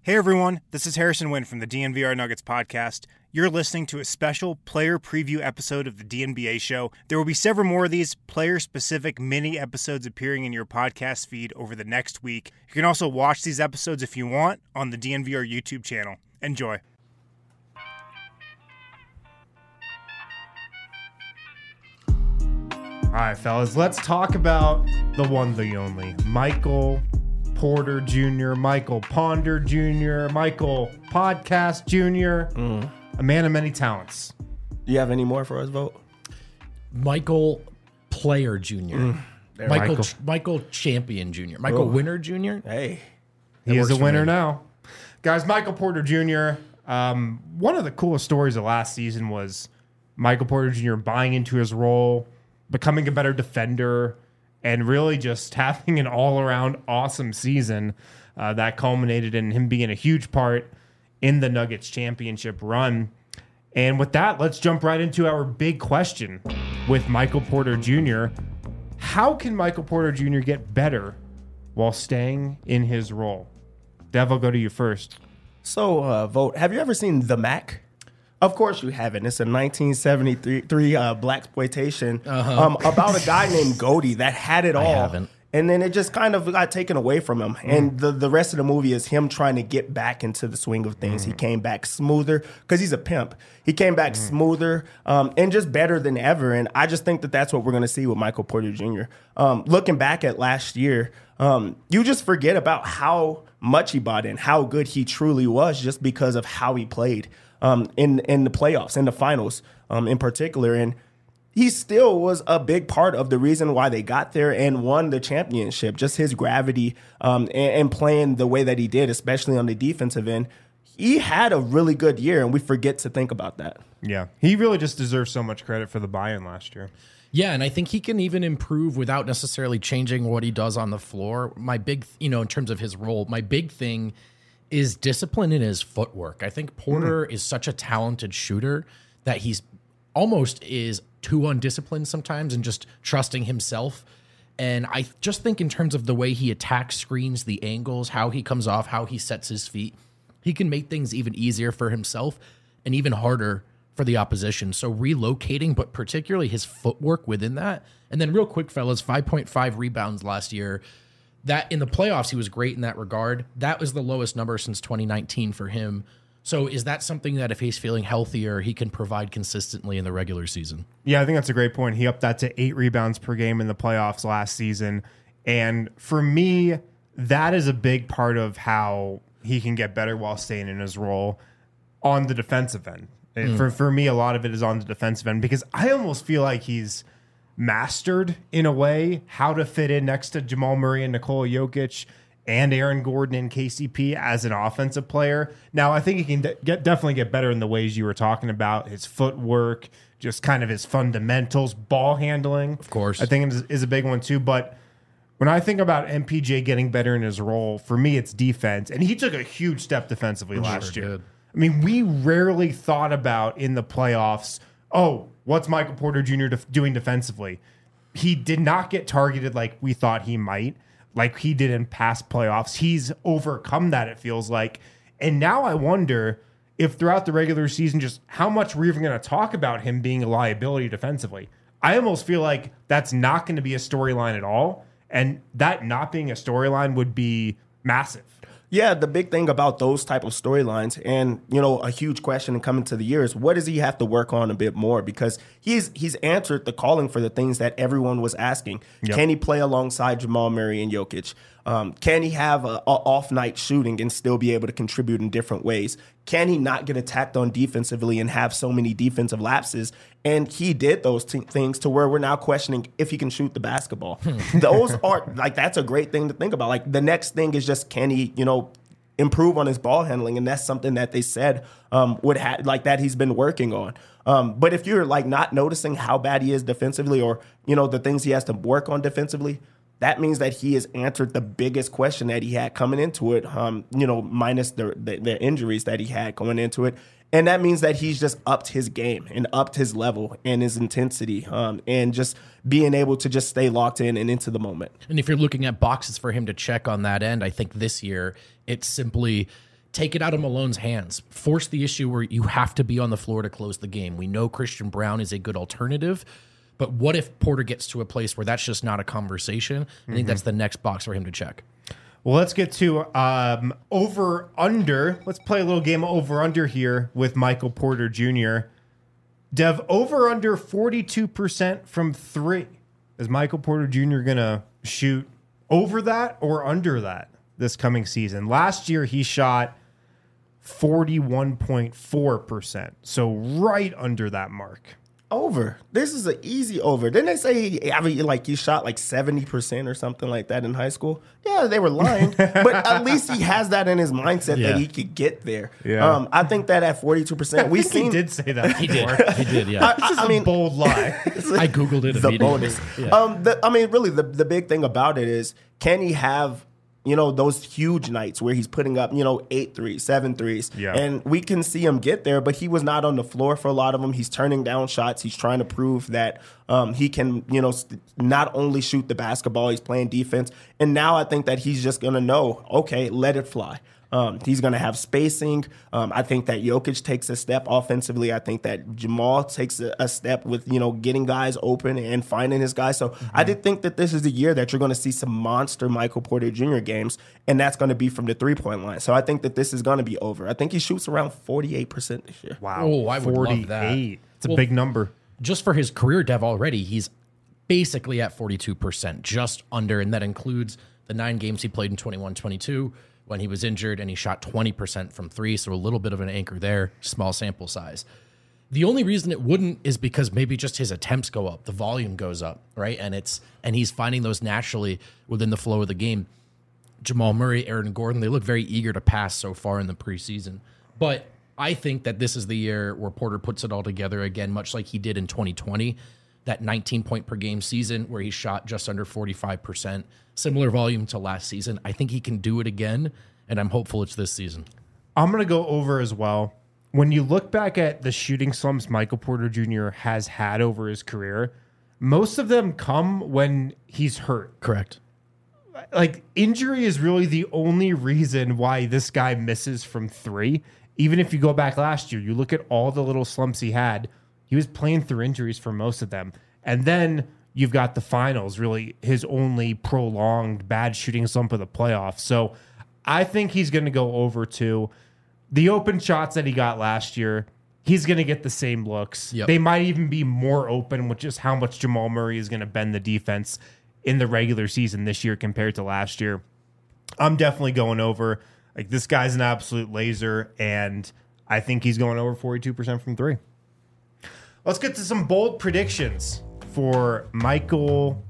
Hey everyone, this is Harrison Wynn from the DNVR Nuggets podcast. You're listening to a special player preview episode of the DNBA show. There will be several more of these player-specific mini episodes appearing in your podcast feed over the next week. You can also watch these episodes if you want on the DNVR YouTube channel. Enjoy. All right, fellas, let's talk about the one, the only, Michael Porter Jr., Michael Ponder Jr., Michael Podcast Jr., a man of many talents. Do you have any more for us, Vote? Michael Player Jr. Michael Champion Jr. Michael Winner Jr. Hey. He is a winner now. Guys, Michael Porter Jr., one of the coolest stories of last season was Michael Porter Jr. buying into his role, becoming a better defender, and really just having an all-around awesome season that culminated in him being a huge part in the Nuggets championship run. And with that, let's jump right into our big question with Michael Porter Jr. How can Michael Porter Jr. get better while staying in his role? Dev, I'll go to you first. So, Vote, have you ever seen The Mac? Of course you haven't. It's a 1973 blaxploitation about a guy named Goldie that had it all. I haven't. And then it just kind of got taken away from him. And the rest of the movie is him trying to get back into the swing of things. He came back smoother because he's a pimp. He came back smoother and just better than ever. And I just think that that's what we're going to see with Michael Porter Jr. Looking back at last year, you just forget about how much he bought in, how good he truly was just because of how he played in the playoffs, in the finals in particular. And he still was a big part of the reason why they got there and won the championship. Just his gravity and playing the way that he did, especially on the defensive end. He had a really good year, and we forget to think about that. Yeah, he really just deserves so much credit for the buy-in last year. Yeah, and I think he can even improve without necessarily changing what he does on the floor. My big, in terms of his role, my big thing is discipline in his footwork. I think Porter is such a talented shooter that he's almost is too undisciplined sometimes and just trusting himself. And I just think in terms of the way he attacks screens, the angles, how he comes off, how he sets his feet, he can make things even easier for himself and even harder for the opposition. So relocating, but particularly his footwork within that. And then real quick, fellas, 5.5 rebounds last year. That in the playoffs, he was great in that regard. That was the lowest number since 2019 for him. So is that something that if he's feeling healthier, he can provide consistently in the regular season? Yeah, I think that's a great point. He upped that to 8 rebounds per game in the playoffs last season. And for me, that is a big part of how he can get better while staying in his role on the defensive end. For me, a lot of it is on the defensive end because I almost feel like he's mastered in a way how to fit in next to Jamal Murray and Nikola Jokic and Aaron Gordon and KCP as an offensive player. Now, I think he can definitely get better in the ways you were talking about, his footwork, just kind of his fundamentals, ball handling. Of course. I think is a big one too. But when I think about MPJ getting better in his role, for me, it's defense. And he took a huge step defensively last year. Did. I mean, we rarely thought about in the playoffs, what's Michael Porter Jr. doing defensively? He did not get targeted like we thought he might, like he did in past playoffs. He's overcome that, it feels like. And now I wonder if throughout the regular season, just how much we're even going to talk about him being a liability defensively. I almost feel like that's not going to be a storyline at all. And that not being a storyline would be massive. Yeah, the big thing about those type of storylines and, a huge question coming to the year is what does he have to work on a bit more? Because he's answered the calling for the things that everyone was asking. Yep. Can he play alongside Jamal Murray and Jokic? Can he have an off night shooting and still be able to contribute in different ways? Can he not get attacked on defensively and have so many defensive lapses? And he did those things to where we're now questioning if he can shoot the basketball. Those are that's a great thing to think about. Like the next thing is just can he, improve on his ball handling, and that's something that they said that he's been working on. But if you're not noticing how bad he is defensively, or the things he has to work on defensively, that means that he has answered the biggest question that he had coming into it. Minus the injuries that he had going into it. And that means that he's just upped his game and upped his level and his intensity and just being able to just stay locked in and into the moment. And if you're looking at boxes for him to check on that end, I think this year it's simply take it out of Malone's hands. Force the issue where you have to be on the floor to close the game. We know Christian Braun is a good alternative, but what if Porter gets to a place where that's just not a conversation? I think that's the next box for him to check. Well, let's get to over-under. Let's play a little game of over-under here with Michael Porter Jr. Dev, over-under 42% from 3. Is Michael Porter Jr. going to shoot over that or under that this coming season? Last year, he shot 41.4%, so right under that mark. Over. This is an easy over. Didn't they say he shot like 70% or something like that in high school? Yeah, they were lying. But at least he has that in his mindset that he could get there. Yeah. I think that at 42%, He did say that before. He did, yeah. I mean, bold lie. I Googled it the immediately. bonus. Yeah. Really, the big thing about it is, can he have those huge nights where he's putting up, 8 threes, 7 threes. Yeah. And we can see him get there, but he was not on the floor for a lot of them. He's turning down shots. He's trying to prove that he can, not only shoot the basketball, he's playing defense. And now I think that he's just going to know, okay, let it fly. He's going to have spacing. I think that Jokic takes a step offensively. I think that Jamal takes a step with, getting guys open and finding his guys. So I did think that this is the year that you're going to see some monster Michael Porter Jr. games, and that's going to be from the three-point line. So I think that this is going to be over. I think he shoots around 48% this year. Wow. Oh, I would love that. It's a big number. Just for his career, Dev, already, he's basically at 42%, just under, and that includes the 9 games he played in 21-22 when he was injured, and he shot 20% from 3, so a little bit of an anchor there, small sample size. The only reason it wouldn't is because maybe just his attempts go up, the volume goes up, right? And he's finding those naturally within the flow of the game. Jamal Murray, Aaron Gordon, they look very eager to pass so far in the preseason. But I think that this is the year where Porter puts it all together again, much like he did in 2020, that 19-point-per-game season where he shot just under 45%, similar volume to last season. I think he can do it again, and I'm hopeful it's this season. I'm going to go over as well. When you look back at the shooting slumps Michael Porter Jr. has had over his career, most of them come when he's hurt. Correct. Like, injury is really the only reason why this guy misses from 3. Even if you go back last year, you look at all the little slumps he had, he was playing through injuries for most of them. And then you've got the finals, really his only prolonged bad shooting slump of the playoffs. So I think he's going to go over to the open shots that he got last year. He's going to get the same looks. Yep. They might even be more open with just how much Jamal Murray is going to bend the defense in the regular season this year compared to last year. I'm definitely going over. Like, this guy's an absolute laser, and I think he's going over 42% from 3. Let's get to some bold predictions for Michael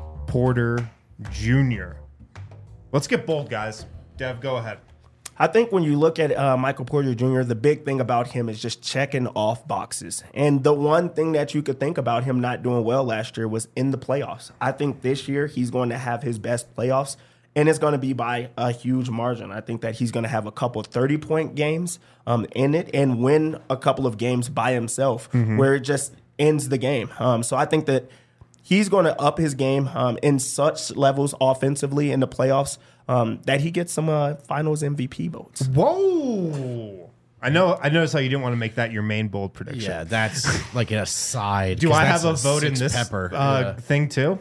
Porter Jr. Let's get bold, guys. Dev, go ahead. I think when you look at Michael Porter Jr., the big thing about him is just checking off boxes. And the one thing that you could think about him not doing well last year was in the playoffs. I think this year he's going to have his best playoffs, and it's going to be by a huge margin. I think that he's going to have a couple 30-point games in it and win a couple of games by himself where it just ends the game. So I think that he's going to up his game in such levels offensively in the playoffs that he gets some finals MVP votes. Whoa. I noticed how you didn't want to make that your main bold prediction. Yeah, that's like an aside. Do I have a vote in this pepper thing too?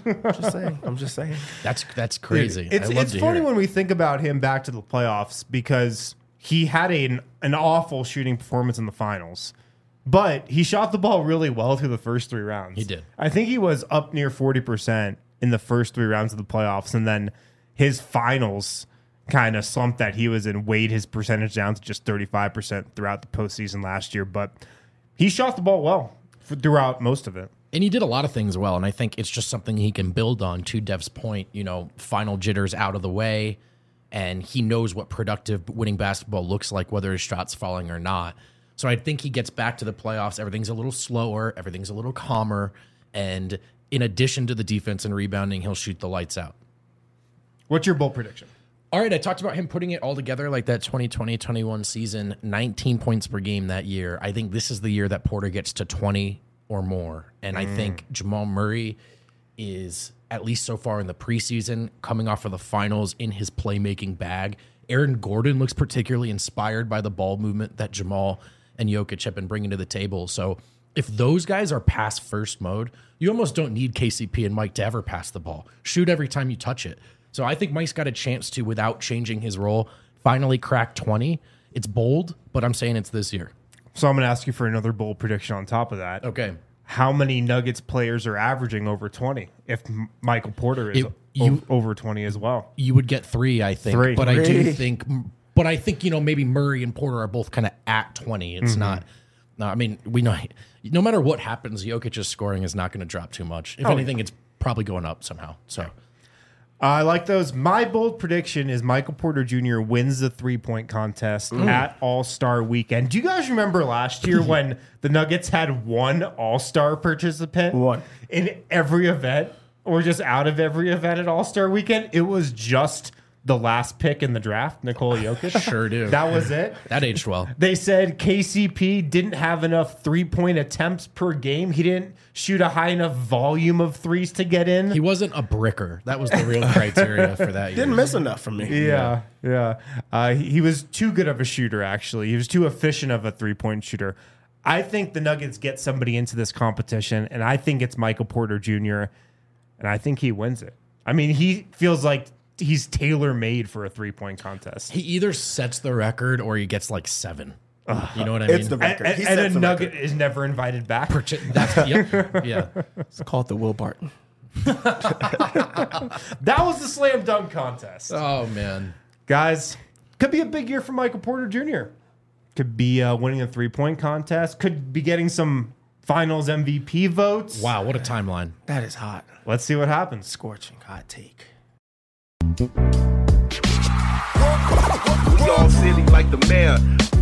I'm just saying. That's crazy. It's funny when we think about him back to the playoffs because he had an awful shooting performance in the finals, but he shot the ball really well through the first 3 rounds. He did. I think he was up near 40% in the first 3 rounds of the playoffs, and then his finals kind of slump that he was in weighed his percentage down to just 35% throughout the postseason last year. But he shot the ball well throughout most of it. And he did a lot of things well, and I think it's just something he can build on. To Dev's point, final jitters out of the way, and he knows what productive winning basketball looks like, whether his shot's falling or not. So I think he gets back to the playoffs. Everything's a little slower. Everything's a little calmer. And in addition to the defense and rebounding, he'll shoot the lights out. What's your bold prediction? All right, I talked about him putting it all together like that 2020-21 season, 19 points per game that year. I think this is the year that Porter gets to 20 or more. And I think Jamal Murray is, at least so far in the preseason, coming off of the finals in his playmaking bag. Aaron Gordon looks particularly inspired by the ball movement that Jamal and Jokic have been bringing to the table. So if those guys are pass first mode, you almost don't need KCP and Mike to ever pass the ball. Shoot every time you touch it. So I think Mike's got a chance to, without changing his role, finally crack 20. It's bold, but I'm saying it's this year. So I'm going to ask you for another bold prediction on top of that. Okay. How many Nuggets players are averaging over 20 if Michael Porter is over 20 as well? You would get 3, I think. 3. But I do think, maybe Murray and Porter are both kind of at 20. It's not. No, I mean, we know no matter what happens, Jokic's scoring is not going to drop too much. If anything, it's probably going up somehow. So I like those. My bold prediction is Michael Porter Jr. wins the 3-point contest at All-Star Weekend. Do you guys remember last year when the Nuggets had one All-Star participant in every event, or just out of every event at All-Star Weekend? It was just the last pick in the draft, Nikola Jokic. Sure do. That was it. That aged well. They said KCP didn't have enough 3-point attempts per game. He didn't shoot a high enough volume of threes to get in. He wasn't a bricker. That was the real criteria for that year. Didn't miss enough from me. Yeah. He was too good of a shooter, actually. He was too efficient of a 3-point shooter. I think the Nuggets get somebody into this competition, and I think it's Michael Porter Jr., and I think he wins it. I mean, he feels like he's tailor-made for a 3-point contest. He either sets the record or he gets like 7. You know what I mean? It's the record. And a Nugget is never invited back. Yeah. It's called the Will Barton. That was the slam dunk contest. Oh, man. Guys, could be a big year for Michael Porter Jr. Could be winning a 3-point contest. Could be getting some finals MVP votes. Wow, what a timeline. That is hot. Let's see what happens. Scorching hot take. We all silly like the mayor.